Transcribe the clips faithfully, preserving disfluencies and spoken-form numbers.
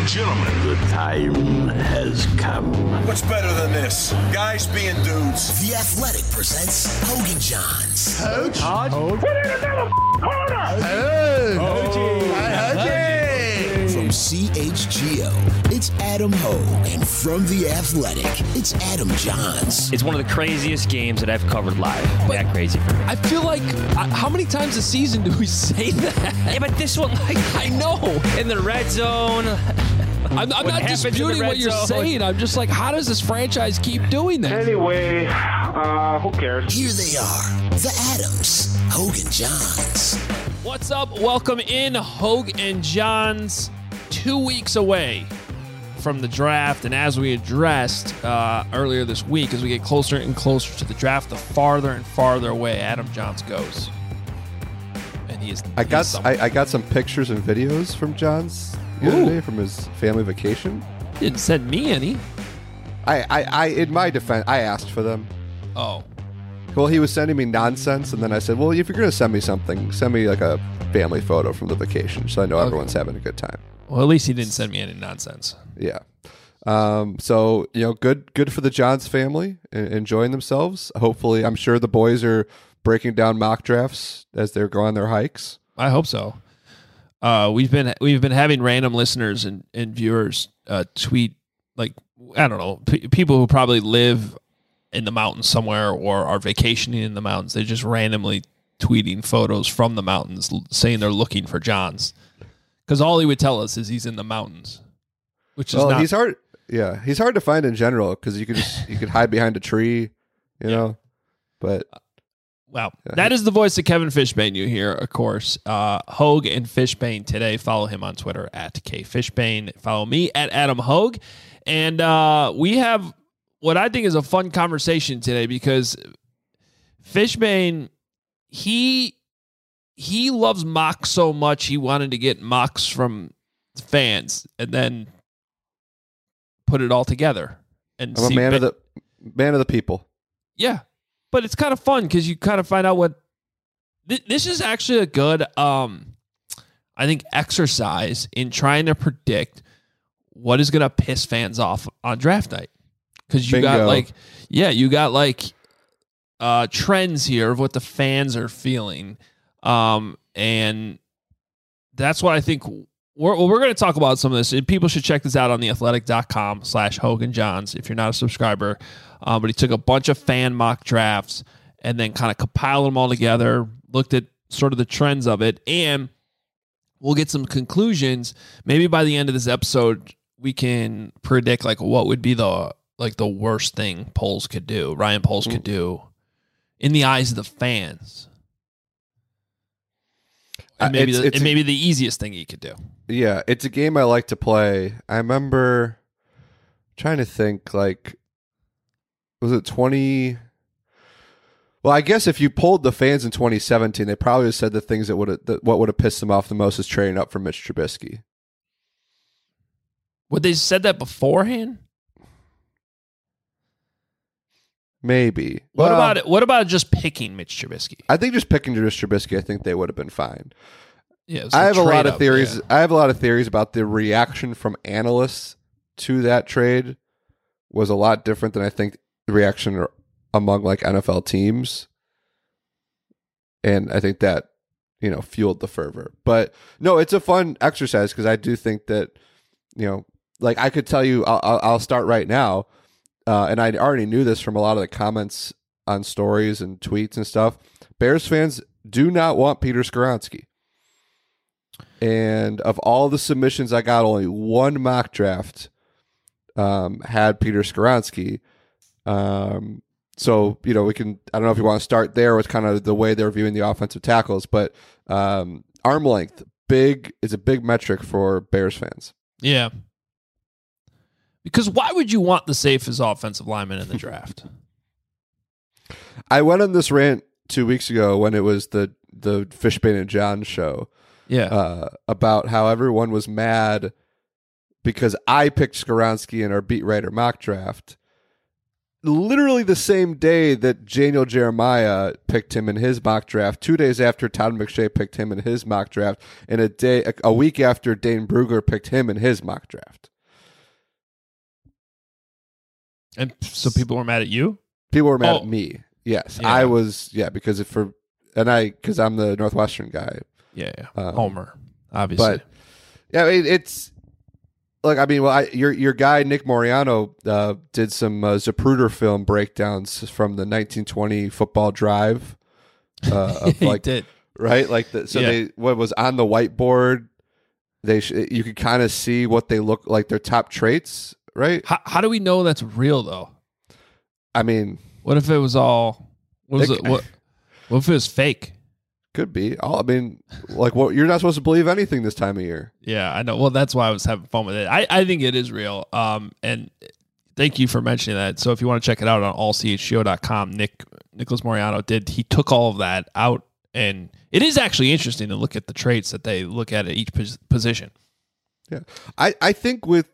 and gentlemen, the time has come. What's better than this? Guys being dudes. The Athletic presents Hogan Johns. Coach? Hoge? Put in another corner! Hoge! Hoge! From C H G O, it's Adam Hoge. And from The Athletic, it's Adam Johns. It's one of the craziest games that I've covered live. But that crazy for me. I feel like, uh, how many times a season do we say that? Yeah, but this one, like, I know. in the red zone. I'm, I'm not disputing what you're zone. saying. I'm just like, how does this franchise keep doing that? Anyway, uh, who cares? Here they are, the Adams, Hoge and Johns. What's up? Welcome in, Hoge and Johns. Two weeks away from the draft, and as we addressed uh, earlier this week, as we get closer and closer to the draft, the farther and farther away Adam Johns goes. And he is. I he's got someone. I, I got some pictures and videos from Johns the other Ooh. day from his family vacation. He didn't send me any. I, I, I in my defense, I asked for them. Oh, Well, he was sending me nonsense, and then I said, "Well, if you're going to send me something, send me like a family photo from the vacation, so I know Okay. everyone's having a good time." well, at least he didn't send me any nonsense. Yeah. Um, so you know, good, good for the Johns family en- enjoying themselves. Hopefully, I'm sure the boys are breaking down mock drafts as they're going on their hikes. I hope so. Uh, we've been we've been having random listeners and, and viewers uh, tweet, like, I don't know, p- people who probably live in the mountains somewhere or are vacationing in the mountains. They're just randomly tweeting photos from the mountains l- saying they're looking for Johns. Because all he would tell us is he's in the mountains, which is Well, not. he's hard. Yeah, he's hard to find in general because you could just you could hide behind a tree, you know. But Wow. Yeah. That is the voice of Kevin Fishbane you hear, of course. Uh, Hoge and Fishbane today. Follow him on Twitter at K Fishbane. Follow me at Adam Hoge. And uh, we have what I think is a fun conversation today because Fishbane, he he loves mocks so much he wanted to get mocks from fans and then put it all together. And I'm a see man ba- of the man of the people. yeah, but it's kind of fun because you kind of find out what th- this is actually a good, um, I think, exercise in trying to predict what is going to piss fans off on draft night. Because you got Bingo. like, yeah, you got like uh, trends here of what the fans are feeling, um, and that's what I think. We're, well, we're going to talk about some of this. And people should check this out on theathletic.com slash Hogan Johns if you're not a subscriber. Um, but he took a bunch of fan mock drafts and then kind of compiled them all together, looked at sort of the trends of it, and we'll get some conclusions. Maybe by the end of this episode, we can predict like what would be the like the worst thing Poles could do, Ryan Poles could do in the eyes of the fans. And maybe, Uh, it's- the, it's and a- maybe the easiest thing he could do. Yeah, it's a game I like to play. I remember trying to think, like, was it twenty? Well, I guess if you polled the fans in twenty seventeen, they probably said the things that would have, that what would have pissed them off the most is trading up for Mitch Trubisky. Would they said that beforehand? Maybe. What Well, about it? What about just picking Mitch Trubisky? I think just picking Mitch Trubisky, I think they would have been fine. Yeah, it's I have a lot trade of up, theories. yeah. I have a lot of theories about the reaction from analysts to that trade was a lot different than I think the reaction among like N F L teams, and I think that you know fueled the fervor. But no, it's a fun exercise because I do think that you know, like I could tell you, I'll, I'll I'll start right now, uh, and I already knew this from a lot of the comments on stories and tweets and stuff. Bears fans do not want Peter Skoronski. And of all the submissions I got, only one mock draft um, had Peter Skoronski. Um, so, you know, we can, I don't know if you want to start there with kind of the way they're viewing the offensive tackles, but um, arm length, big, is a big metric for Bears fans. Yeah. Because why would you want the safest offensive lineman in the draft? I went on this rant two weeks ago when it was the, the Fishbane and John show. Yeah. Uh, about how everyone was mad because I picked Skoronski in our beat writer mock draft. literally the same day that Daniel Jeremiah picked him in his mock draft, two days after Todd McShay picked him in his mock draft, and a day a week after Dane Brugler picked him in his mock draft. And so people were mad at you? People were mad Oh. at me. Yes, Yeah. I was. Yeah, because if for and I because I'm the Northwestern guy. Yeah, yeah. Um, Homer, obviously. But yeah, it, it's like I mean, well, I, your your guy Nick Moriano uh, did some uh, Zapruder film breakdowns from the nineteen twenty football drive. Uh, of he like did. right, like the, so Yeah. they what was on the whiteboard. They sh- you could kind of see what they look like, their top traits, right? How, how do we know that's real, though? I mean, What if it was all... What was It- it? What, what if it was fake? could be. All I mean, like what you're not supposed to believe anything this time of year. Yeah, I know. Well, that's why I was having fun with it. I, I think it is real. Um, and thank you for mentioning that. So if you want to check it out on all c h g o dot com, Nick Nicholas Moriano did. He took all of that out, and it is actually interesting to look at the traits that they look at at each pos- position. Yeah, I I think with.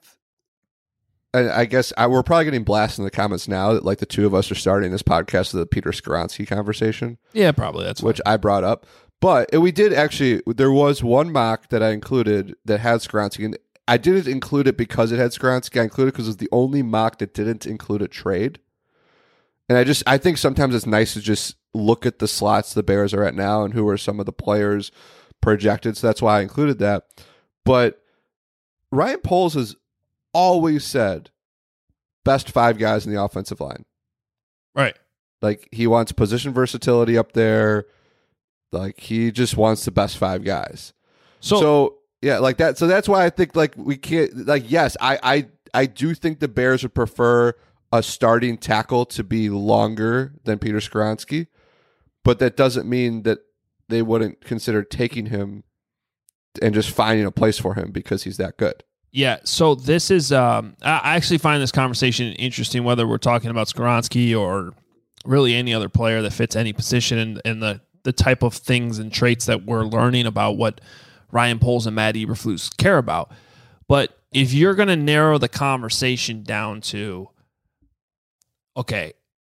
And I guess I, we're probably getting blasted in the comments now that like the two of us are starting this podcast with the Peter Skoronsky conversation, Yeah, probably that's which fine. I brought up. But we did actually, there was one mock that I included that had Skoronsky. And I didn't include it because it had Skoronsky. I included it because it was the only mock that didn't include a trade. And I just, I think sometimes it's nice to just look at the slots the Bears are at now and who are some of the players projected. So that's why I included that. But Ryan Poles has always said best five guys in the offensive line. Right. Like he wants position versatility up there. Like he just wants the best five guys. So, So yeah, like that. So that's why I think like we can't like yes, I I I do think the Bears would prefer a starting tackle to be longer than Peter Skoronsky, but that doesn't mean that they wouldn't consider taking him and just finding a place for him because he's that good. yeah, so this is, um, I I actually find this conversation interesting, whether we're talking about Skoronsky or really any other player that fits any position and, and the, the type of things and traits that we're learning about what Ryan Poles and Matt Eberflus care about. But if you're going to narrow the conversation down to, okay,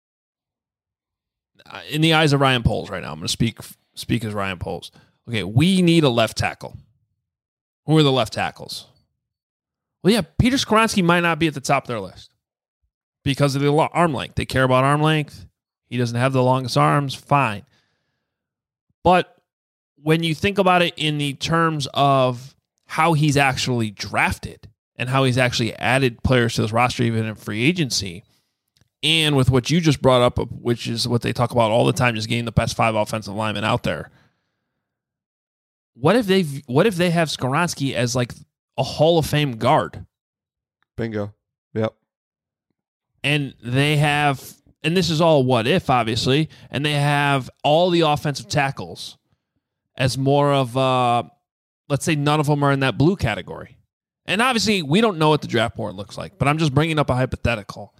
in the eyes of Ryan Poles right now, I'm going to speak speak as Ryan Poles. Okay, we need a left tackle. Who are the left tackles? Well, yeah, Peter Skoronsky might not be at the top of their list because of the lo- arm length. They care about arm length. He doesn't have the longest arms. Fine. But when you think about it in the terms of how he's actually drafted and how he's actually added players to this roster, even in free agency, and with what you just brought up, which is what they talk about all the time, just getting the best five offensive linemen out there. What if they what if they have Skoronsky as like a Hall of Fame guard? Bingo. Yep. And they have, and this is all what if, obviously, and they have all the offensive tackles as more of, uh, let's say none of them are in that blue category. And obviously, we don't know what the draft board looks like, but I'm just bringing up a hypothetical.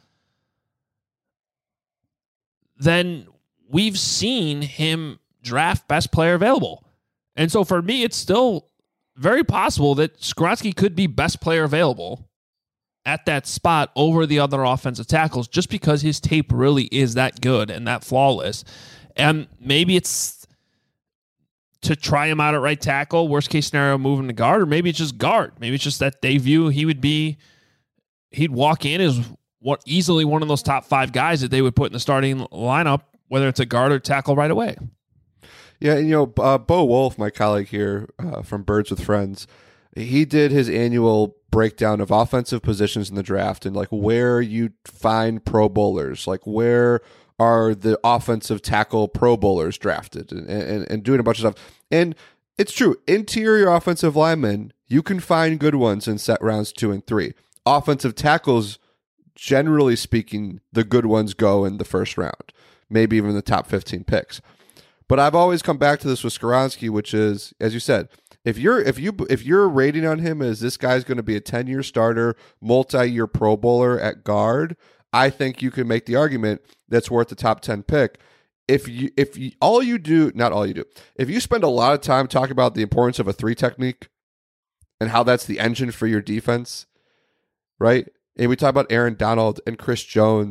Then we've seen him draft best player available. And so for me, it's still very possible that Skoronsky could be best player available at that spot over the other offensive tackles just because his tape really is that good and that flawless. And maybe it's to try him out at right tackle, worst case scenario, move him to guard, or maybe it's just guard. Maybe it's just that they view he would be, he'd walk in as what easily one of those top five guys that they would put in the starting lineup, whether it's a guard or tackle right away. Yeah, and you know, uh, Bo Wolf, my colleague here uh, from Birds with Friends, he did his annual breakdown of offensive positions in the draft and like where you find Pro Bowlers, like where are the offensive tackle Pro Bowlers drafted, and, and, and doing a bunch of stuff. And it's true, interior offensive linemen, you can find good ones in set rounds two and three. Offensive tackles, generally speaking, the good ones go in the first round, maybe even the top fifteen picks. But I've always come back to this with Skoronsky, which is, as you said, if you're if you if you're rating on him as this guy's going to be a ten-year starter, multi-year Pro Bowler at guard, I think you can make the argument that's worth the top ten pick. If you if you, all you do, not all you do, if you spend a lot of time talking about the importance of a three technique and how that's the engine for your defense, right? And we talk about Aaron Donald and Chris Jones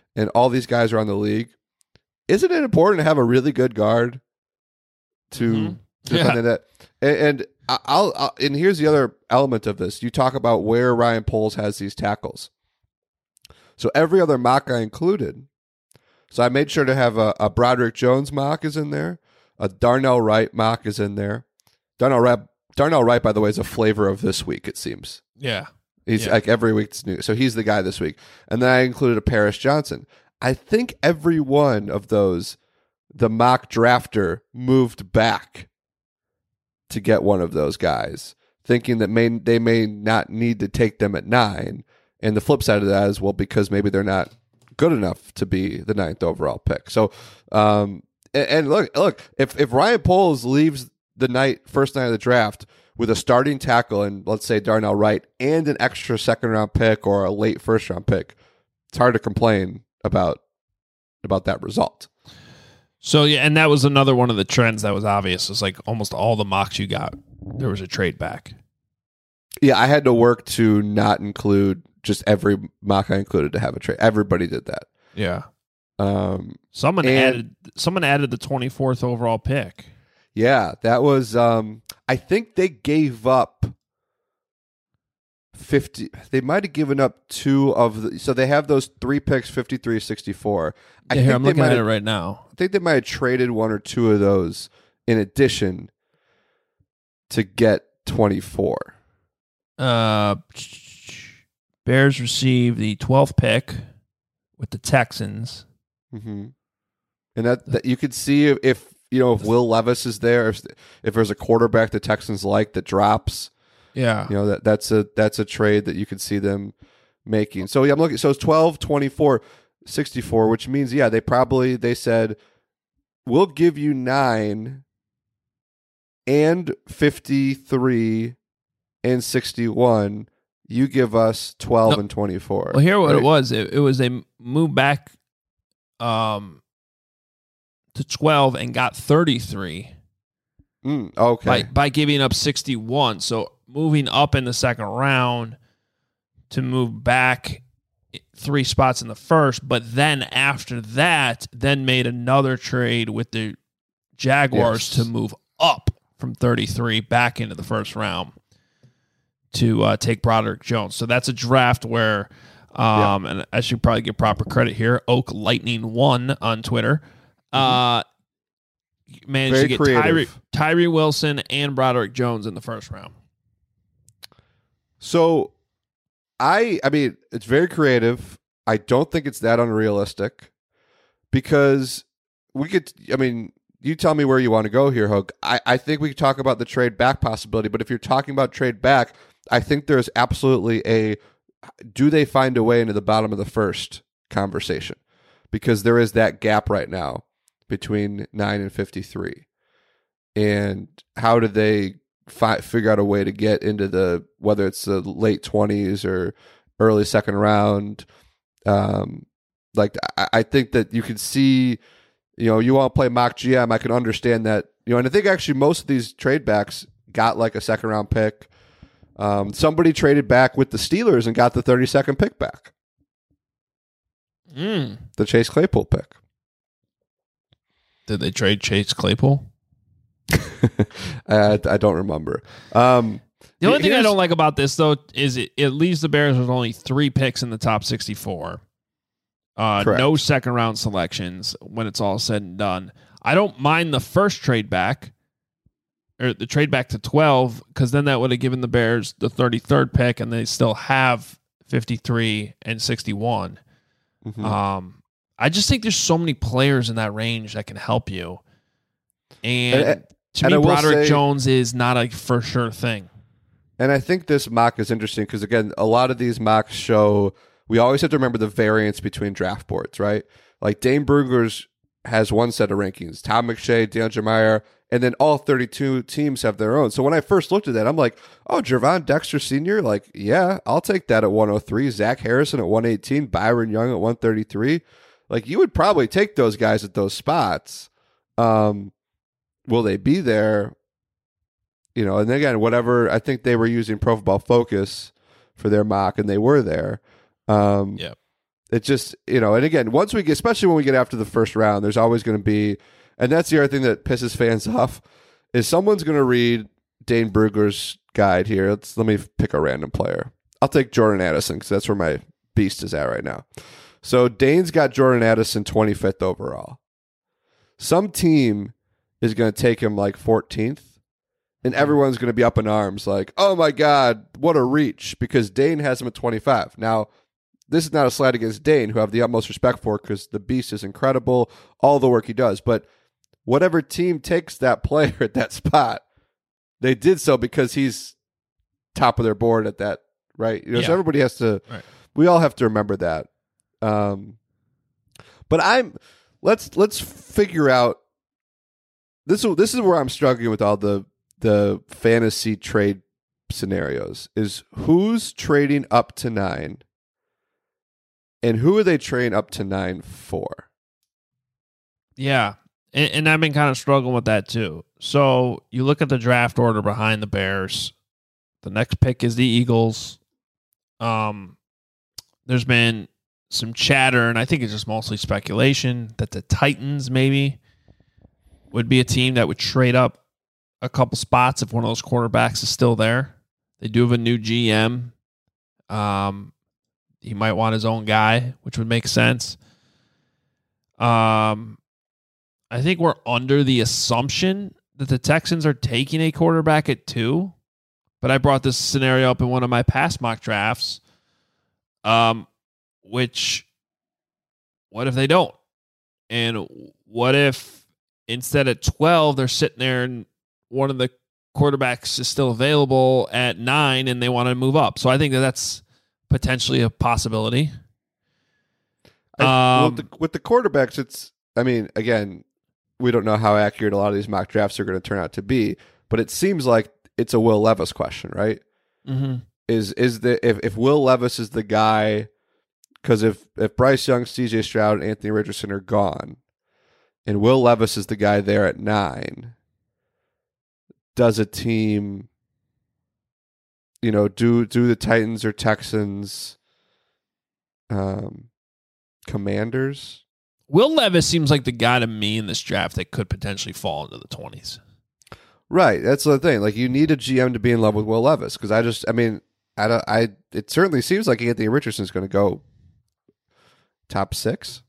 and all these guys are on the league, isn't it important to have a really good guard to Mm-hmm. defend Yeah. that? And, and I'll, I'll and here's the other element of this. You talk about where Ryan Poles has these tackles. So every other mock I included. So I made sure to have a, a Broderick Jones mock is in there. A Darnell Wright mock is in there. Darnell Wright, Darnell Wright, by the way, is a flavor of this week, it seems. Yeah. He's Yeah. like every week's new. So he's the guy this week. And then I included a Paris Johnson. I think every one of those, the mock drafter moved back to get one of those guys, thinking that may, they may not need to take them at nine. And the flip side of that is, well, because maybe they're not good enough to be the ninth overall pick. So, um, and, and look, look, if, if Ryan Poles leaves the night, first night of the draft with a starting tackle and let's say Darnell Wright and an extra second round pick or a late first round pick, it's hard to complain about, about that result. So yeah, and that was another one of the trends that was obvious. It's like almost all the mocks you got, there was a trade back. Yeah, I had to work to not include just every mock I included to have a trade. Everybody did that. Yeah. Um, Someone and- added someone added the twenty-fourth overall pick. yeah, that was. Um, I think they gave up fifty. They might have given up two of the. So they have those three picks, fifty-three, sixty-four. I Yeah, here, think I'm they looking might at it have- right now. I think they might have traded one or two of those in addition to get twenty-four. Uh, Bears received the twelfth pick with the Texans. Mm-hmm. And that, that you could see if, if you know if Will Levis is there, if if there's a quarterback the Texans like that drops, Yeah. you know that that's a that's a trade that you could see them making. So yeah, I'm looking. So it's twelve, twenty-four, sixty-four, which means yeah, they probably they said we'll give you nine and fifty-three and sixty-one. You give us twelve No. and twenty-four. Well, here what right? it was. It, it was they moved back um, to twelve and got thirty-three Mm, okay. by, by giving up sixty-one. So moving up in the second round to move back three spots in the first. But then after that, then made another trade with the Jaguars Yes. to move up from thirty-three back into the first round to uh, take Broderick Jones. So that's a draft where, um, and I should probably give proper credit here, Oak Lightning one on Twitter. Uh, managed Very to get creative. Tyree, Tyree Wilson and Broderick Jones in the first round. So, I I mean, it's very creative. I don't think it's that unrealistic because we could. I mean, you tell me where you want to go here, Hook. I I think we could talk about the trade back possibility, but if you're talking about trade back, I think there's absolutely a. Do they find a way into the bottom of the first conversation? Because there is that gap right now between nine and fifty-three, and how do they fi- figure out a way to get into the whether it's the late twenties or early second round? Um, like I, I think that you can see, you know, you want to play mock G M. I can understand that, you know, and I think actually most of these trade backs got like a second round pick. Um, somebody traded back with the Steelers and got the thirty-second pick back. Mm. The Chase Claypool pick. Did they trade Chase Claypool? I, I don't remember. Um, The only thing I here's- don't like about this, though, is it, it leaves the Bears with only three picks in the top sixty-four. Uh, Correct. no second round selections when it's all said and done. I don't mind the first trade back, or the trade back to twelve, because then that would have given the Bears the thirty-third pick, and they still have fifty-three and sixty-one. Mhm. Um, I just think there's so many players in that range that can help you. And, And- to and I me, will Broderick say- Jones is not a for sure thing. And I think this mock is interesting because, again, a lot of these mocks show we always have to remember the variance between draft boards, right? Like Dane Brugler's has one set of rankings, Tom McShay, DeAndre Meyer, and then all thirty-two teams have their own. So when I first looked at that, I'm like, oh, Jervon Dexter Senior? Like, yeah, I'll take that at one oh three. Zach Harrison at one eighteen. Byron Young at one thirty-three. Like, you would probably take those guys at those spots. Um, will they be there? You know, and again, whatever, I think they were using Pro Football Focus for their mock, and they were there. Um, Yep. it just, you know, and again, once we get, especially when we get after the first round, there's always going to be, and that's the other thing that pisses fans off, is someone's going to read Dane Brugler's guide here. Let's, let me pick a random player. I'll take Jordan Addison because that's where my beast is at right now. So Dane's got Jordan Addison twenty-fifth overall. Some team is going to take him like fourteenth, and everyone's going to be up in arms like, oh my God, what a reach, because Dane has him at twenty-five. Now, this is not a slight against Dane, who I have the utmost respect for because the beast is incredible, all the work he does. But whatever team takes that player at that spot, they did so because he's top of their board at that, right? You know, Yeah. so everybody has to, Right. we all have to remember that. Um, but I'm, let's, let's figure out, this, this is where I'm struggling with all the, the fantasy trade scenarios, is who's trading up to nine and who are they trading up to nine for? Yeah. And, and I've been kind of struggling with that too. So you look at the draft order behind the Bears. The next pick is the Eagles. Um, there's been some chatter, and I think it's just mostly speculation, that the Titans maybe would be a team that would trade up a couple spots if one of those quarterbacks is still there. They do have a new G M. Um, he might want his own guy, which would make sense. Um, I think we're under the assumption that the Texans are taking a quarterback at two, but I brought this scenario up in one of my past mock drafts. Um, which, what if they don't? And what if instead of twelve, they're sitting there and one of the quarterbacks is still available at nine and they want to move up? So I think that that's potentially a possibility. I, Um, with, the, with the quarterbacks, it's, I mean, again, we don't know how accurate a lot of these mock drafts are going to turn out to be, but it seems like it's a Will Levis question, right? Mm-hmm. Is is the if, if Will Levis is the guy, because if, if Bryce Young, C J Stroud, and Anthony Richardson are gone, and Will Levis is the guy there at nine, does a team, you know, do do the Titans or Texans, um, Commanders? Will Levis seems like the guy to me in this draft that could potentially fall into the twenties. Right, that's the thing. Like, you need a G M to be in love with Will Levis, because I just, I mean, I, don't, I, it certainly seems like Anthony Richardson is going to go top six,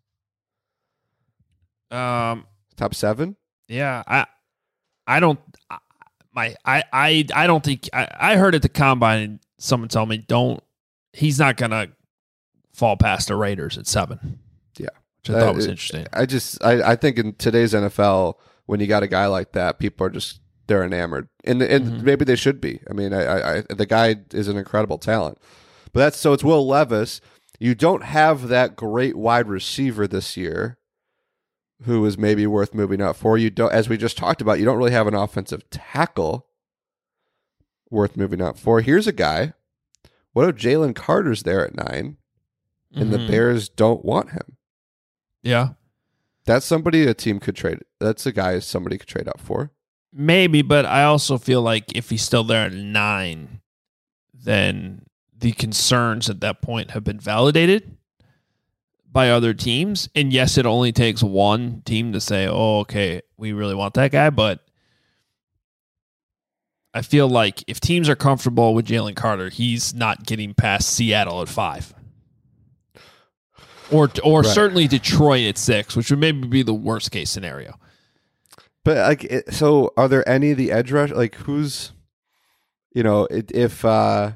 Um, top seven. yeah, I, I don't, I, my, I, I, I don't think I, I heard at the combine someone tell me don't. He's not gonna fall past the Raiders at seven. Yeah, which I thought Uh, was it- interesting. I just, I, I think in today's N F L, when you got a guy like that, people are just, they're enamored, and and Mhm. maybe they should be. I mean, I, I, I, the guy is an incredible talent, but that's so it's Will Levis. You don't have that great wide receiver this year, who is maybe worth moving up for. You don't, as we just talked about, you don't really have an offensive tackle worth moving up for. Here's a guy. What if Jalen Carter's there at nine, and the Mhm. Bears don't want him? Yeah, That's somebody a team could trade. That's a guy somebody could trade up for. maybe, but I also feel like if he's still there at nine, then the concerns at that point have been validated by other teams. And yes, it only takes one team to say, oh, okay, we really want that guy. But I feel like if teams are comfortable with Jalen Carter, he's not getting past Seattle at five. Or, or Right. certainly Detroit at six, which would maybe be the worst case scenario. But like, it, so are there any of the edge rush? Like, who's, you know, it, if uh,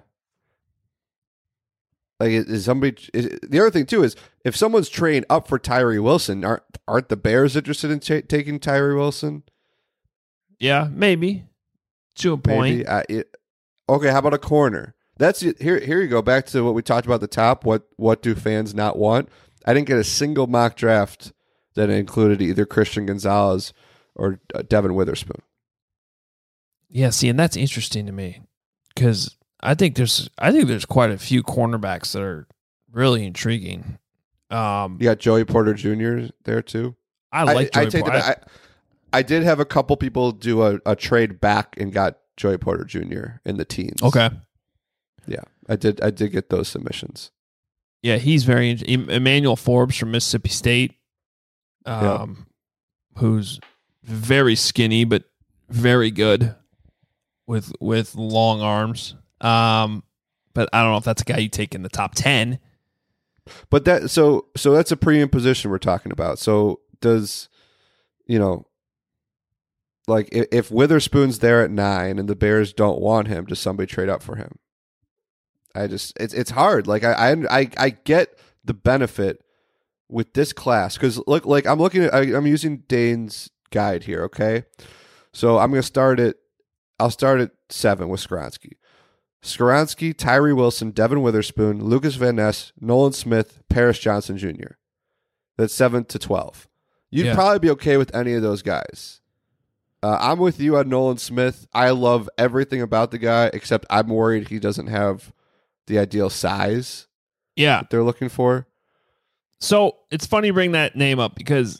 like is is somebody? Is, the other thing too is if someone's trading up for Tyree Wilson, aren't aren't the Bears interested in ta taking Tyree Wilson? Yeah, maybe to a point. Maybe. Uh, it, okay, how about a corner? That's it. Here. Here you go. Back to what we talked about at the top. What what do fans not want? I didn't get a single mock draft that included either Christian Gonzalez or uh, Devin Witherspoon. Yeah, see, and that's interesting to me because I think there's I think there's quite a few cornerbacks that are really intriguing. Um, You got Joey Porter Junior there too. I like I, Joey I take Porter. that. I, I did have a couple people do a, a trade back and got Joey Porter Junior in the teens. Okay. Yeah, I did. I did get those submissions. Yeah, he's very interesting. Emmanuel Forbes from Mississippi State, um, yeah. who's very skinny but very good with with long arms. Um, but I don't know if that's a guy you take in the top ten. But that so so that's a premium position we're talking about. So does you know, like if, if Witherspoon's there at nine and the Bears don't want him, does somebody trade up for him? I just it's it's hard. Like I I I, I get the benefit with this class because look like I'm looking at I, I'm using Dane's guide here. Okay, so I'm gonna start at I'll start at seven with Skoronski. Skoronski, Tyree Wilson, Devin Witherspoon, Lucas Van Ness, Nolan Smith, Paris Johnson Junior That's seven to twelve. You'd yeah. probably be okay with any of those guys. Uh, I'm with you on Nolan Smith. I love everything about the guy, except I'm worried he doesn't have the ideal size yeah. that they're looking for. So it's funny you bring that name up because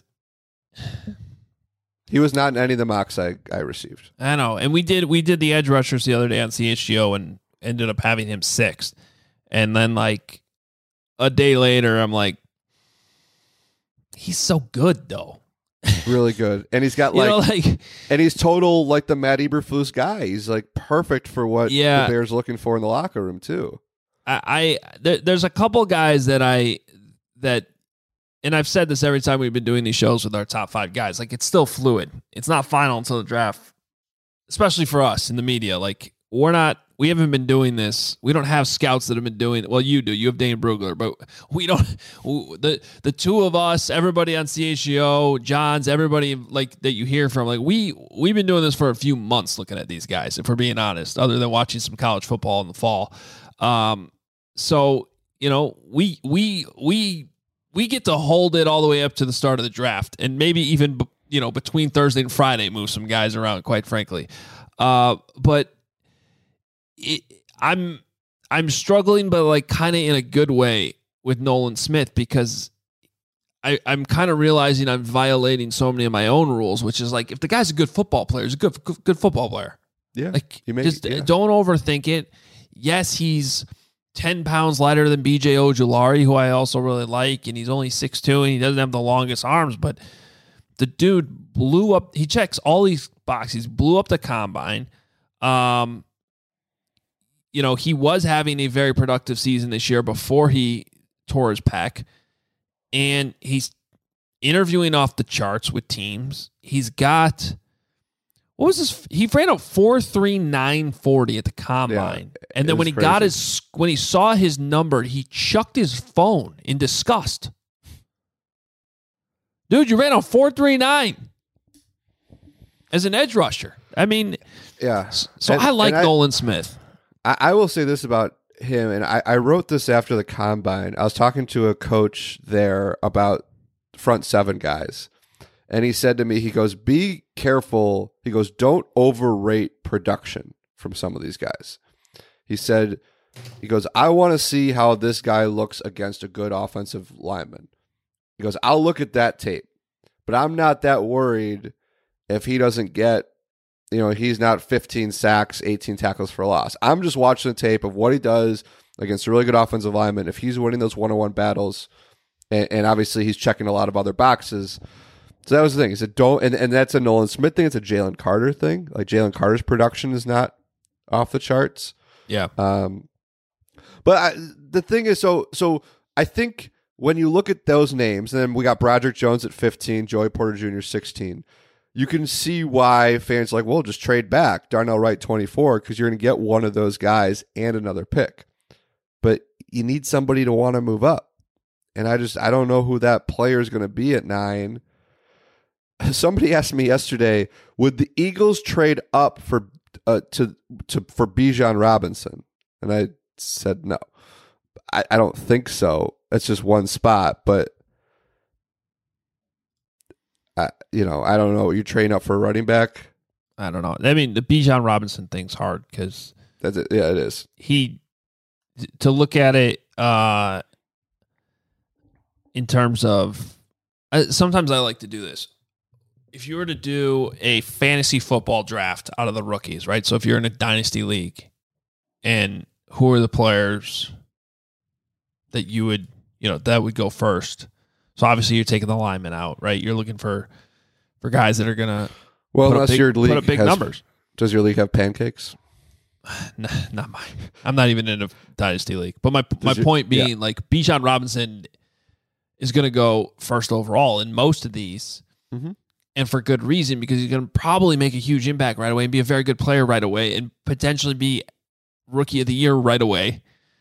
he was not in any of the mocks I, I received. I know. And we did we did the edge rushers the other day on C H G O and ended up having him sixth. And then like a day later, I'm like, he's so good though. Really good. And he's got like, you know, like and he's total like the Matt Eberflus guy. He's like perfect for what yeah, the Bears looking for in the locker room too. I, I there, there's a couple guys that I that and I've said this every time we've been doing these shows with our top five guys. Like it's still fluid. It's not final until the draft, especially for us in the media. Like we're not, we haven't been doing this. We don't have scouts that have been doing it. Well, you do. You have Dane Brugler, but we don't. The the two of us, everybody on C H G O, Johns, everybody like that you hear from. Like we we've been doing this for a few months, looking at these guys. If we're being honest, other than watching some college football in the fall. Um, so you know, we we we. We get to hold it all the way up to the start of the draft, and maybe even you know between Thursday and Friday, move some guys around. Quite frankly, uh, but it, I'm I'm struggling, but like kind of in a good way with Nolan Smith because I, I'm kind of realizing I'm violating so many of my own rules, which is like if the guy's a good football player, he's a good good, good football player. Yeah, like you may, just yeah. don't overthink it. Yes, he's ten pounds lighter than B J Ojulari, who I also really like, and he's only six two, and he doesn't have the longest arms, but the dude blew up. He checks all these boxes. Blew up the combine. Um, you know, he was having a very productive season this year before he tore his pec, and he's interviewing off the charts with teams. He's got... What was this? He ran a four three nine forty at the combine, yeah, and then when he crazy. got his when he saw his number, he chucked his phone in disgust. Dude, you ran a four three nine as an edge rusher. I mean, yeah. So and, I like I, Nolan Smith. I, I will say this about him, and I, I wrote this after the combine. I was talking to a coach there about front seven guys. And he said to me, he goes, be careful. He goes, don't overrate production from some of these guys. He said, he goes, I want to see how this guy looks against a good offensive lineman. He goes, I'll look at that tape, but I'm not that worried if he doesn't get, you know, he's not fifteen sacks, eighteen tackles for loss. I'm just watching the tape of what he does against a really good offensive lineman. If he's winning those one-on-one battles, and, and obviously he's checking a lot of other boxes. So that was the thing. He said, don't, and, and that's a Nolan Smith thing. It's a Jalen Carter thing. Like Jalen Carter's production is not off the charts. Yeah. Um, but I, the thing is, so so I think when you look at those names, and then we got Broderick Jones at fifteen, Joey Porter Junior sixteen, you can see why fans are like, well, just trade back. Darnell Wright twenty-four, because you're going to get one of those guys and another pick. But you need somebody to want to move up. And I just, I don't know who that player is going to be at nine. Somebody asked me yesterday, would the Eagles trade up for uh, to to for Bijan Robinson? And I said no. I, I don't think so. It's just one spot, but I, you know, I don't know. You train up for a running back? I don't know. I mean, the Bijan Robinson thing's hard because that's it. Yeah, it is. He to look at it uh, in terms of. Uh, sometimes I like to do this. If you were to do a fantasy football draft out of the rookies, right? So if you're in a dynasty league, and who are the players that you would you know, that would go first. So obviously you're taking the linemen out, right? You're looking for for guys that are gonna well, put unless up big, your league put up big has, numbers. Does your league have pancakes? Nah, not mine. I'm not even in a dynasty league. But my does my your, point being, yeah. like Bijan Robinson is going to go first overall in most of these, mm-hmm. and for good reason, because he's going to probably make a huge impact right away and be a very good player right away and potentially be rookie of the year right away.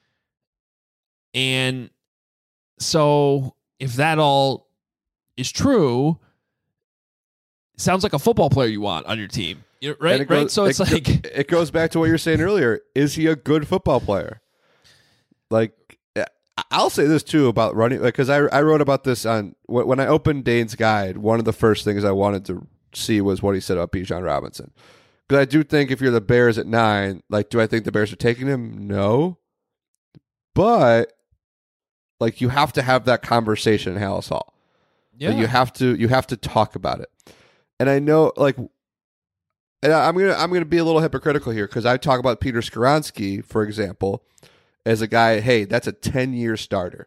And so if that all is true, it sounds like a football player you want on your team, right? It goes, right. So it's it, like it goes back to what you were saying earlier. Is he a good football player? Like, I'll say this too about running, because I I wrote about this on when I opened Dane's guide. One of the first things I wanted to see was what he said about Bijan Robinson, because I do think if you're the Bears at nine, like, do I think the Bears are taking him? No, but like you have to have that conversation in Hallis Hall. Yeah, like, you have to you have to talk about it. And I know, like, and I'm gonna I'm gonna be a little hypocritical here because I talk about Peter Skoronski, for example, as a guy, hey, that's a ten-year starter.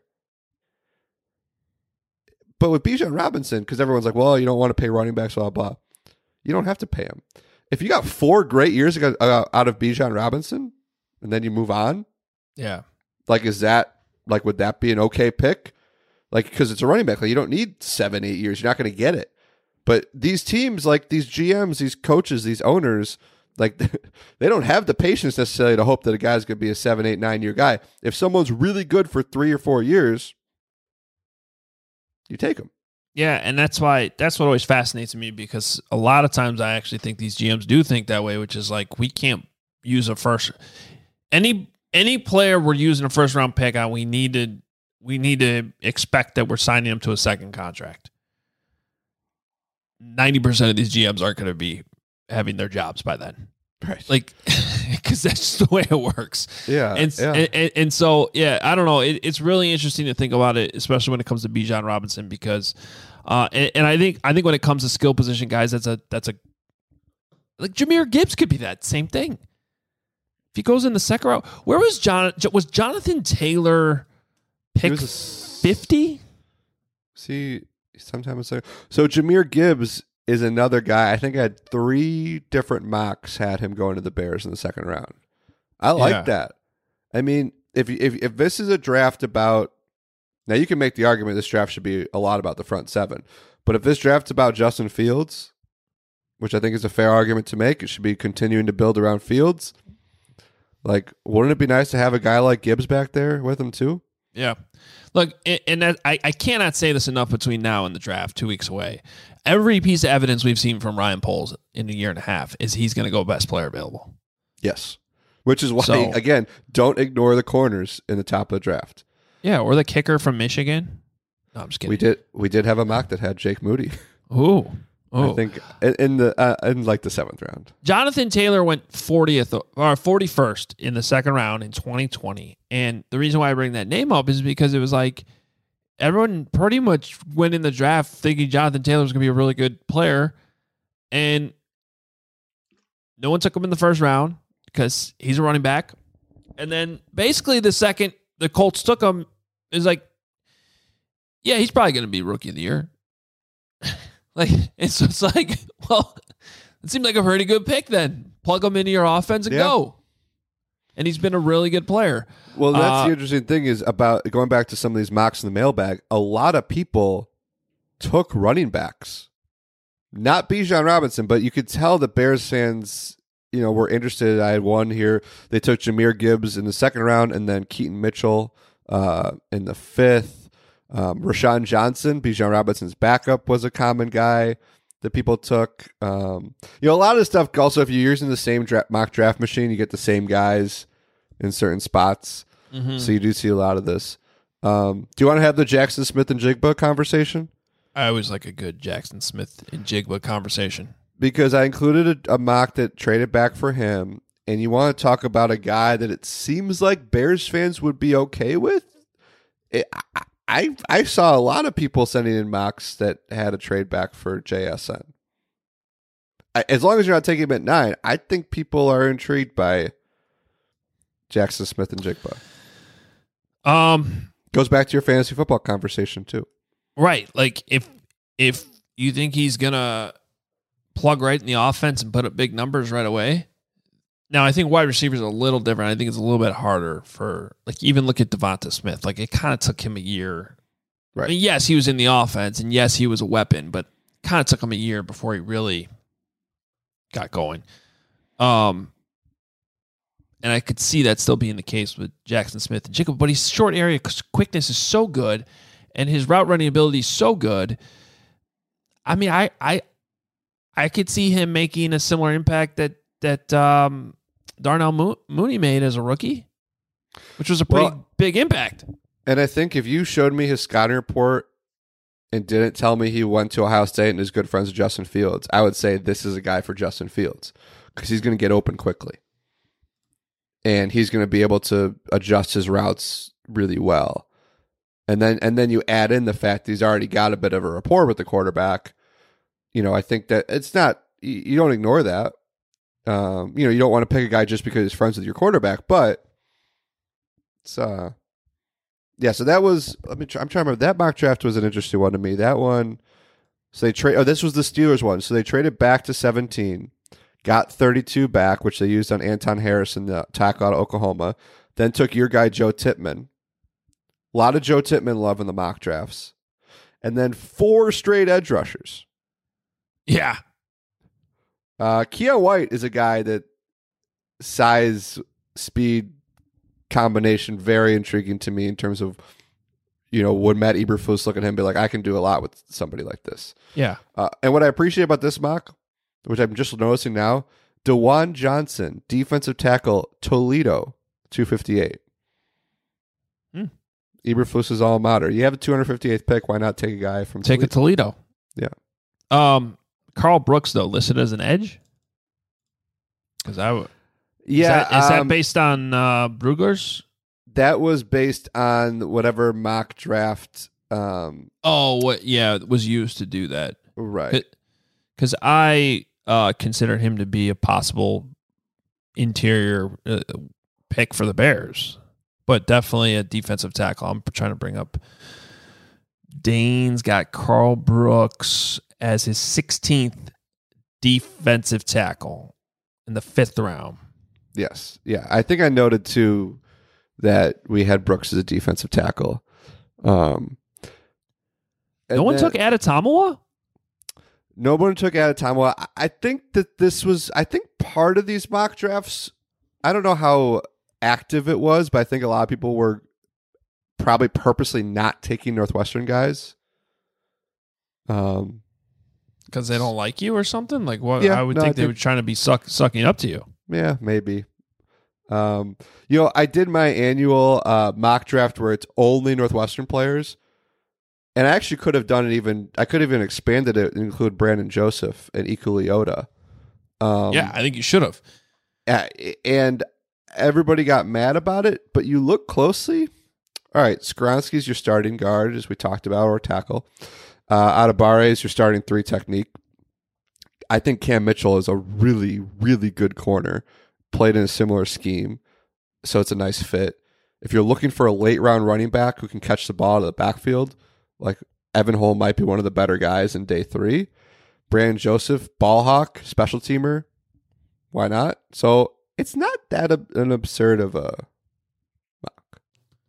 But with Bijan Robinson, because everyone's like, well, you don't want to pay running backs, blah, blah. You don't have to pay him. If you got four great years ago, uh, out of Bijan Robinson, and then you move on, yeah, like, is that, like, would that be an okay pick? Like, because it's a running back. Like, you don't need seven, eight years. You're not going to get it. But these teams, like these G Ms, these coaches, these owners, like, they don't have the patience necessarily to hope that a guy's going to be a seven, eight, nine year guy. If someone's really good for three or four years, you take them. Yeah, and that's why that's what always fascinates me, because a lot of times I actually think these G Ms do think that way, which is like, we can't use a first any any player we're using a first round pick on. We need to we need to expect that we're signing him to a second contract. Ninety percent of these G Ms aren't going to be having their jobs by then, right? Like, because that's just the way it works. Yeah, and yeah. And, and, and so yeah, I don't know. It, it's really interesting to think about it, especially when it comes to Bijan Robinson, because, uh, and, and I think I think when it comes to skill position guys, that's a that's a like Jahmyr Gibbs could be that same thing. If he goes in the second round, where was John? Was Jonathan Taylor pick fifty? See, sometimes so. So Jahmyr Gibbs is another guy. I think I had three different mocks had him going to the Bears in the second round. I like yeah. that. I mean, if if if this is a draft about, now you can make the argument this draft should be a lot about the front seven, but if this draft's about Justin Fields, which I think is a fair argument to make, it should be continuing to build around Fields. Like, wouldn't it be nice to have a guy like Gibbs back there with him too? Yeah. Look, and that, I, I cannot say this enough between now and the draft, two weeks away. Every piece of evidence we've seen from Ryan Poles in a year and a half is he's going to go best player available. Yes. Which is why, so, again, don't ignore the corners in the top of the draft. Yeah, or the kicker from Michigan. No, I'm just kidding. We did we did have a mock that had Jake Moody. Ooh. I think in, in the uh, in like the seventh round. Jonathan Taylor went fortieth or forty-first in the second round in twenty twenty, and the reason why I bring that name up is because it was like everyone pretty much went in the draft thinking Jonathan Taylor was going to be a really good player, and no one took him in the first round because he's a running back, and then basically the second the Colts took him is like, yeah, he's probably going to be rookie of the year. Like, it's just like, well, it seemed like a pretty good pick then. Plug him into your offense and yeah. go. And he's been a really good player. Well, that's uh, the interesting thing is about going back to some of these mocks in the mailbag. A lot of people took running backs, not Bijan Robinson, but you could tell the Bears fans, you know, were interested. I had one here. They took Jahmyr Gibbs in the second round and then Keaton Mitchell uh, in the fifth. Um, Rashawn Johnson, Bijan Robinson's backup, was a common guy that people took. Um, you know, a lot of stuff. Also, if you're using the same dra- mock draft machine, you get the same guys in certain spots. Mm-hmm. So you do see a lot of this. Um, do you want to have the Jackson Smith and Jigba conversation? I always like a good Jackson Smith and Jigba conversation. Because I included a, a mock that traded back for him, and you want to talk about a guy that it seems like Bears fans would be okay with. It, I, I I saw a lot of people sending in mocks that had a trade back for J S N. I, as long as you're not taking him at nine, I think people are intrigued by Jackson Smith and Jigba. Um, Goes back to your fantasy football conversation too. Right. Like if if you think he's gonna plug right in the offense and put up big numbers right away. Now I think wide receivers are a little different. I think it's a little bit harder for like even look at Devonta Smith. Like it kind of took him a year. Right. I mean, yes, he was in the offense and yes, he was a weapon, but kind of took him a year before he really got going. Um And I could see that still being the case with Jackson Smith and Jacob, but his short area quickness is so good, and his route running ability is so good. I mean, I I I could see him making a similar impact that that um, Darnell Mo- Mooney made as a rookie, which was a pretty Well, big impact. And I think if you showed me his scouting report and didn't tell me he went to Ohio State and is good friends with Justin Fields, I would say this is a guy for Justin Fields because he's going to get open quickly. And he's going to be able to adjust his routes really well. And then and then you add in the fact that he's already got a bit of a rapport with the quarterback. You know, I think that it's not, you don't ignore that. Um, you know, you don't want to pick a guy just because he's friends with your quarterback, but it's, uh, yeah, so that was, let me try, I'm trying to remember, that mock draft was an interesting one to me. That one, so they trade, oh, this was the Steelers one. So they traded back to seventeen. Got thirty-two back, which they used on Anton Harrison, the tackle out of Oklahoma. Then took your guy, Joe Tippmann. A lot of Joe Tippmann love in the mock drafts. And then four straight edge rushers. Yeah. Uh, Keon White is a guy that size, speed combination, very intriguing to me in terms of, you know, would Matt Eberflus look at him and be like, I can do a lot with somebody like this. Yeah. Uh, and what I appreciate about this mock, which I'm just noticing now, DeJuan Johnson, defensive tackle, Toledo, two fifty-eight. Hmm. Eberflus's alma mater. You have a two hundred fifty-eighth pick. Why not take a guy from Take Toledo? a Toledo. Yeah. Um, Carl Brooks, though, listed as an edge? Because I would. Yeah. Is that, is um, that based on uh, Brugler's? That was based on whatever mock draft. Um, Oh, what? Yeah, it was used to do that. right. Because I uh, consider him to be a possible interior uh, pick for the Bears, but definitely a defensive tackle. I'm trying to bring up. Dane's got Carl Brooks as his sixteenth defensive tackle in the fifth round. Yes. Yeah. I think I noted too that we had Brooks as a defensive tackle. Um, No one then, took Adetomawa? No one took Adetomawa. I I think that this was, I think part of these mock drafts, I don't know how active it was, but I think a lot of people were probably purposely not taking Northwestern guys. Um, Because they don't like you or something? Like what? Yeah, I would no, think I they think- were trying to be suck, sucking up to you. Yeah, maybe. Um, you know, I did my annual uh, mock draft where it's only Northwestern players. And I actually could have done it even, I could have even expanded it and include Brandon Joseph and Iku Leota. Um, Yeah, I think you should have. a- And everybody got mad about it, but you look closely. All right, Skronsky's your starting guard, as we talked about, or tackle. Uh, Atabare is your starting three technique. I think Cam Mitchell is a really, really good corner. Played in a similar scheme, so it's a nice fit. If you're looking for a late round running back who can catch the ball out of the backfield, like Evan Holm might be one of the better guys in day three. Brandon Joseph, ball hawk, special teamer. Why not? So it's not that ab- an absurd of a mock.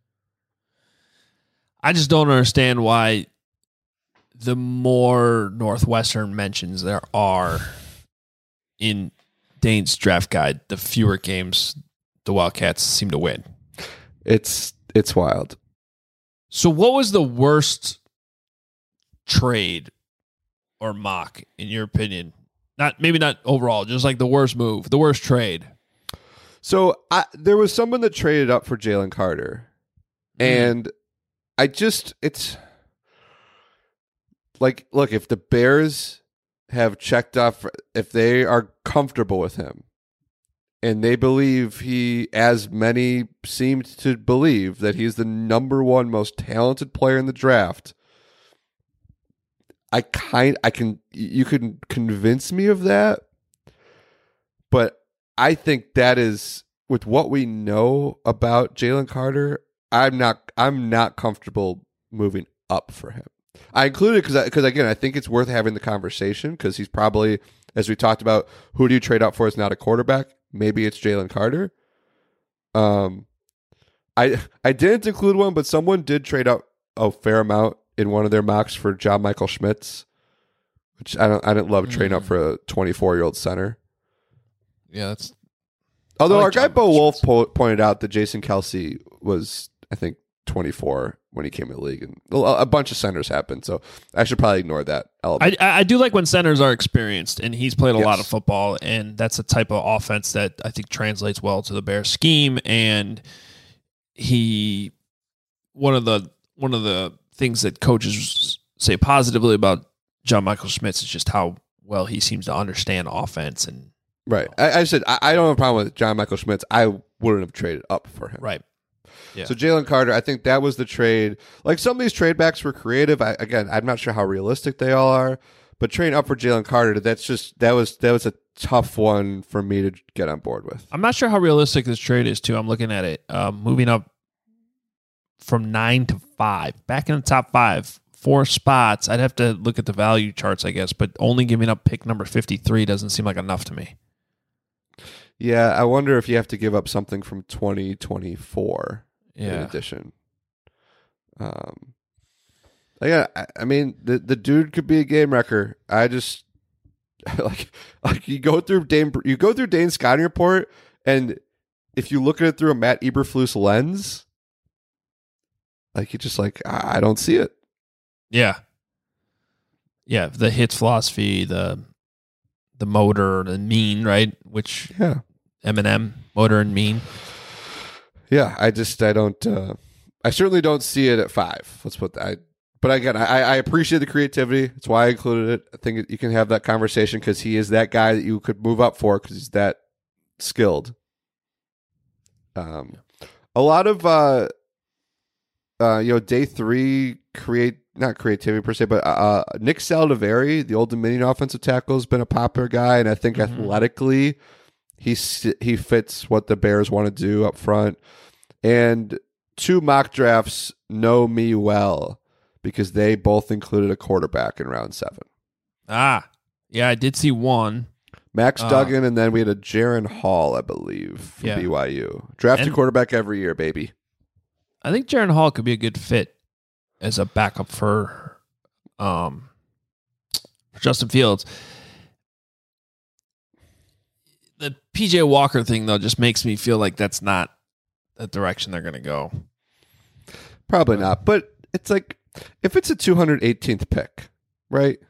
I just don't understand why the more Northwestern mentions there are in Dane's draft guide, the fewer games the Wildcats seem to win. It's it's wild. So what was the worst trade or mock, in your opinion? Not maybe not overall, just like the worst move, the worst trade. So I, there was someone that traded up for Jalen Carter, and I just it's like, look, if the Bears have checked off, if they are comfortable with him, and they believe he, as many seemed to believe, that he's the number one most talented player in the draft. I kind, I can, you can convince me of that, but I think that is, with what we know about Jalen Carter, I'm not I'm not comfortable moving up for him. I included because because again I think it's worth having the conversation because he's probably, as we talked about, who do you trade up for is not a quarterback. Maybe it's Jalen Carter. Um, I I didn't include one, but someone did trade up a fair amount in one of their mocks for John Michael Schmitz, which I don't I didn't love trading mm. up for a twenty-four year old center. Yeah, that's. Although like our John guy Bo Michael Wolf po- pointed out that Jason Kelsey was, I think, twenty-four when he came in the league, and a bunch of centers happened. So I should probably ignore that element. I I do like when centers are experienced, and he's played a yes. lot of football, and that's a type of offense that I think translates well to the Bears scheme. And he, one of the one of the things that coaches say positively about John Michael Schmitz is just how well he seems to understand offense. And right, I, I said I, I don't have a problem with John Michael Schmitz. I wouldn't have traded up for him. Right. Yeah. So Jalen Carter, I think that was the trade. Like some of these trade backs were creative. I, again, I'm not sure how realistic they all are, but trading up for Jalen Carter, that's just that was that was a tough one for me to get on board with. I'm not sure how realistic this trade is too. I'm looking at it, um, moving up from nine to five, back in the top five, four spots. I'd have to look at the value charts, I guess, but only giving up pick number fifty-three doesn't seem like enough to me. Yeah, I wonder if you have to give up something from twenty twenty-four. Yeah. In addition, um, yeah, I, I mean the the dude could be a game wrecker. I just like like you go through Dane, you go through Dane's scouting report, and if you look at it through a Matt Eberflus lens, like you just like I, I don't see it. Yeah, yeah, the hits philosophy, the the motor, the mean, right? Which yeah, Eminem, motor and mean. Yeah, I just I don't uh, I certainly don't see it at five. Let's put that. I, but again, I, I appreciate the creativity. That's why I included it. I think you can have that conversation because he is that guy that you could move up for because he's that skilled. Um, a lot of uh, uh, you know, day three create not creativity per se, but uh, Nick Saldiveri, the Old Dominion offensive tackle, has been a popular guy, and I think mm-hmm. athletically. He he fits what the Bears want to do up front. And two mock drafts know me well because they both included a quarterback in round seven. Ah, yeah, I did see one. Max uh, Duggan, and then we had a Jaron Hall, I believe, from yeah. B Y U. Draft a quarterback every year, baby. I think Jaron Hall could be a good fit as a backup for, um, for Justin Fields. The P J Walker thing, though, just makes me feel like that's not the direction they're going to go. Probably not. But it's like, if it's a two hundred eighteenth pick, right?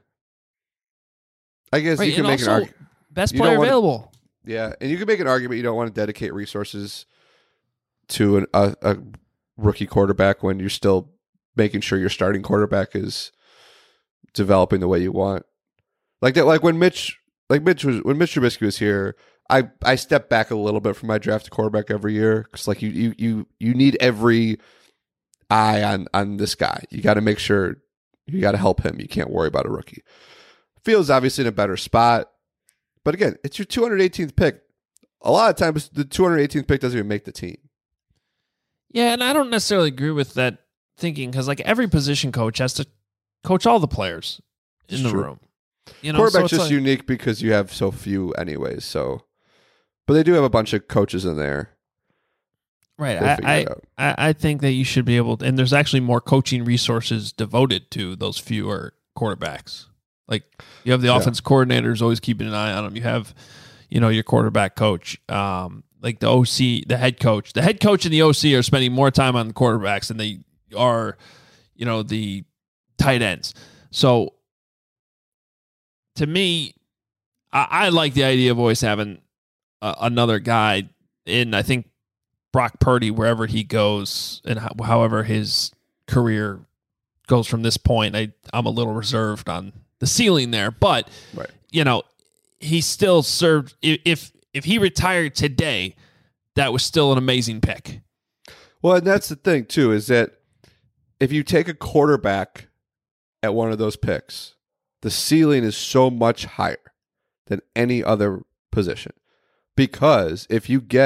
I guess right, you can make an argument. Best player available. To, yeah, and you can make an argument you don't want to dedicate resources to an, a, a rookie quarterback when you're still making sure your starting quarterback is developing the way you want. Like that, like when Mitch, like Mitch was when Mitch Trubisky was here. I, I step back a little bit from my draft quarterback every year because like you you you you need every eye on on this guy. You got to make sure you got to help him. You can't worry about a rookie. Fields obviously in a better spot, but again, it's your two hundred eighteenth pick. A lot of times, the two hundred eighteenth pick doesn't even make the team. Yeah, and I don't necessarily agree with that thinking because like every position coach has to coach all the players in it's the true. room. You know, quarterback's so just like, unique because you have so few, anyways. So. But they do have a bunch of coaches in there. Right. I, I, I think that you should be able to, and there's actually more coaching resources devoted to those fewer quarterbacks. Like you have the yeah. offensive coordinators always keeping an eye on them. You have, you know, your quarterback coach, um, like the O C, the head coach. The head coach and the O C are spending more time on the quarterbacks than they are, you know, the tight ends. So to me, I, I like the idea of always having Uh, another guy in, I think, Brock Purdy, wherever he goes and ho- however his career goes from this point. I, I'm a little reserved on the ceiling there, but, right. you know, he still served. If, if he retired today, that was still an amazing pick. Well, and that's the thing, too, is that if you take a quarterback at one of those picks, the ceiling is so much higher than any other position. Because if you get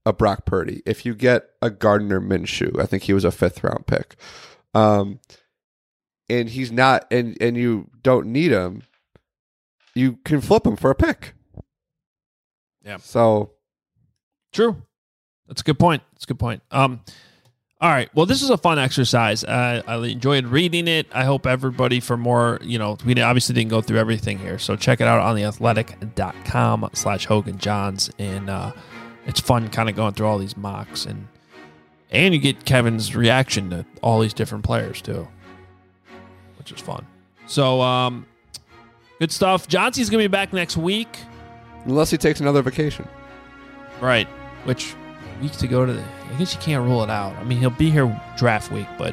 a Brock Purdy, if you get a Gardner Minshew, I think he was a fifth round pick, um, and he's not, and, and you don't need him, you can flip him for a pick. Yeah. So true. That's a good point. That's a good point. Um, all right. Well, this is a fun exercise. Uh, I enjoyed reading it. I hope everybody for more, you know, we obviously didn't go through everything here. So check it out on the athletic dot com slash Hogan Johns. And uh, it's fun kind of going through all these mocks. And and you get Kevin's reaction to all these different players too, which is fun. So um, good stuff. Johnson's going to be back next week. Unless he takes another vacation. Right. Which week to go to the... I guess you can't rule it out. I mean, he'll be here draft week, but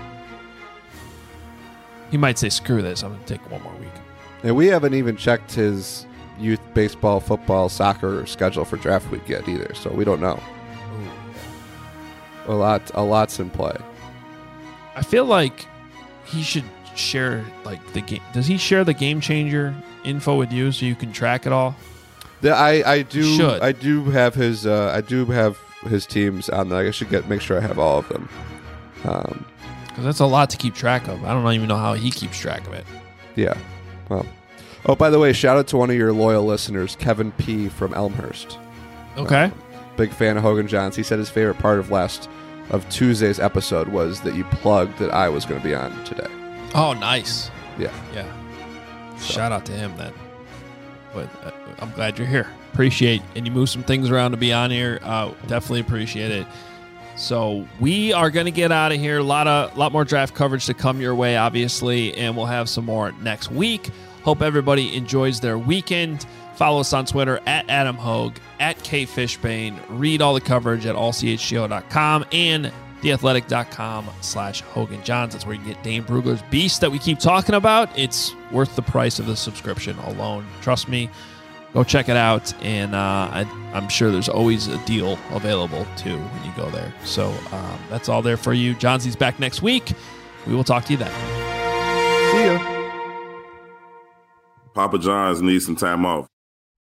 he might say, screw this, I'm going to take one more week. And we haven't even checked his youth baseball, football, soccer schedule for draft week yet either, so we don't know. Ooh. A lot, a lot's in play. I feel like he should share, like, the game. Does he share the Game Changer info with you so you can track it all? The, I, I do Should. I do have his uh, I do have his teams on there. I should get make sure I have all of them. Um, because that's a lot to keep track of. I don't even know how he keeps track of it. Yeah. Well. Oh, by the way, shout out to one of your loyal listeners, Kevin P. from Elmhurst. Okay. Uh, big fan of Hogan Johns. He said his favorite part of last of Tuesday's episode was that you plugged that I was going to be on today. Oh, nice. Yeah. Yeah. So. Shout out to him then. But uh, I'm glad you're here. Appreciate, and you move some things around to be on here. Uh, definitely appreciate it. So we are going to get out of here. A lot of, lot more draft coverage to come your way, obviously, and we'll have some more next week. Hope everybody enjoys their weekend. Follow us on Twitter at Adam Hogue, at K Fishbane. Read all the coverage at all c h g o dot com and the athletic dot com slash Hogan Johns. That's where you get Dane Brugler's Beast that we keep talking about. It's worth the price of the subscription alone. Trust me. Go check it out, and uh, I, I'm sure there's always a deal available, too, when you go there. So um, that's all there for you. Johnsy's back next week. We will talk to you then. See ya. Papa John's needs some time off.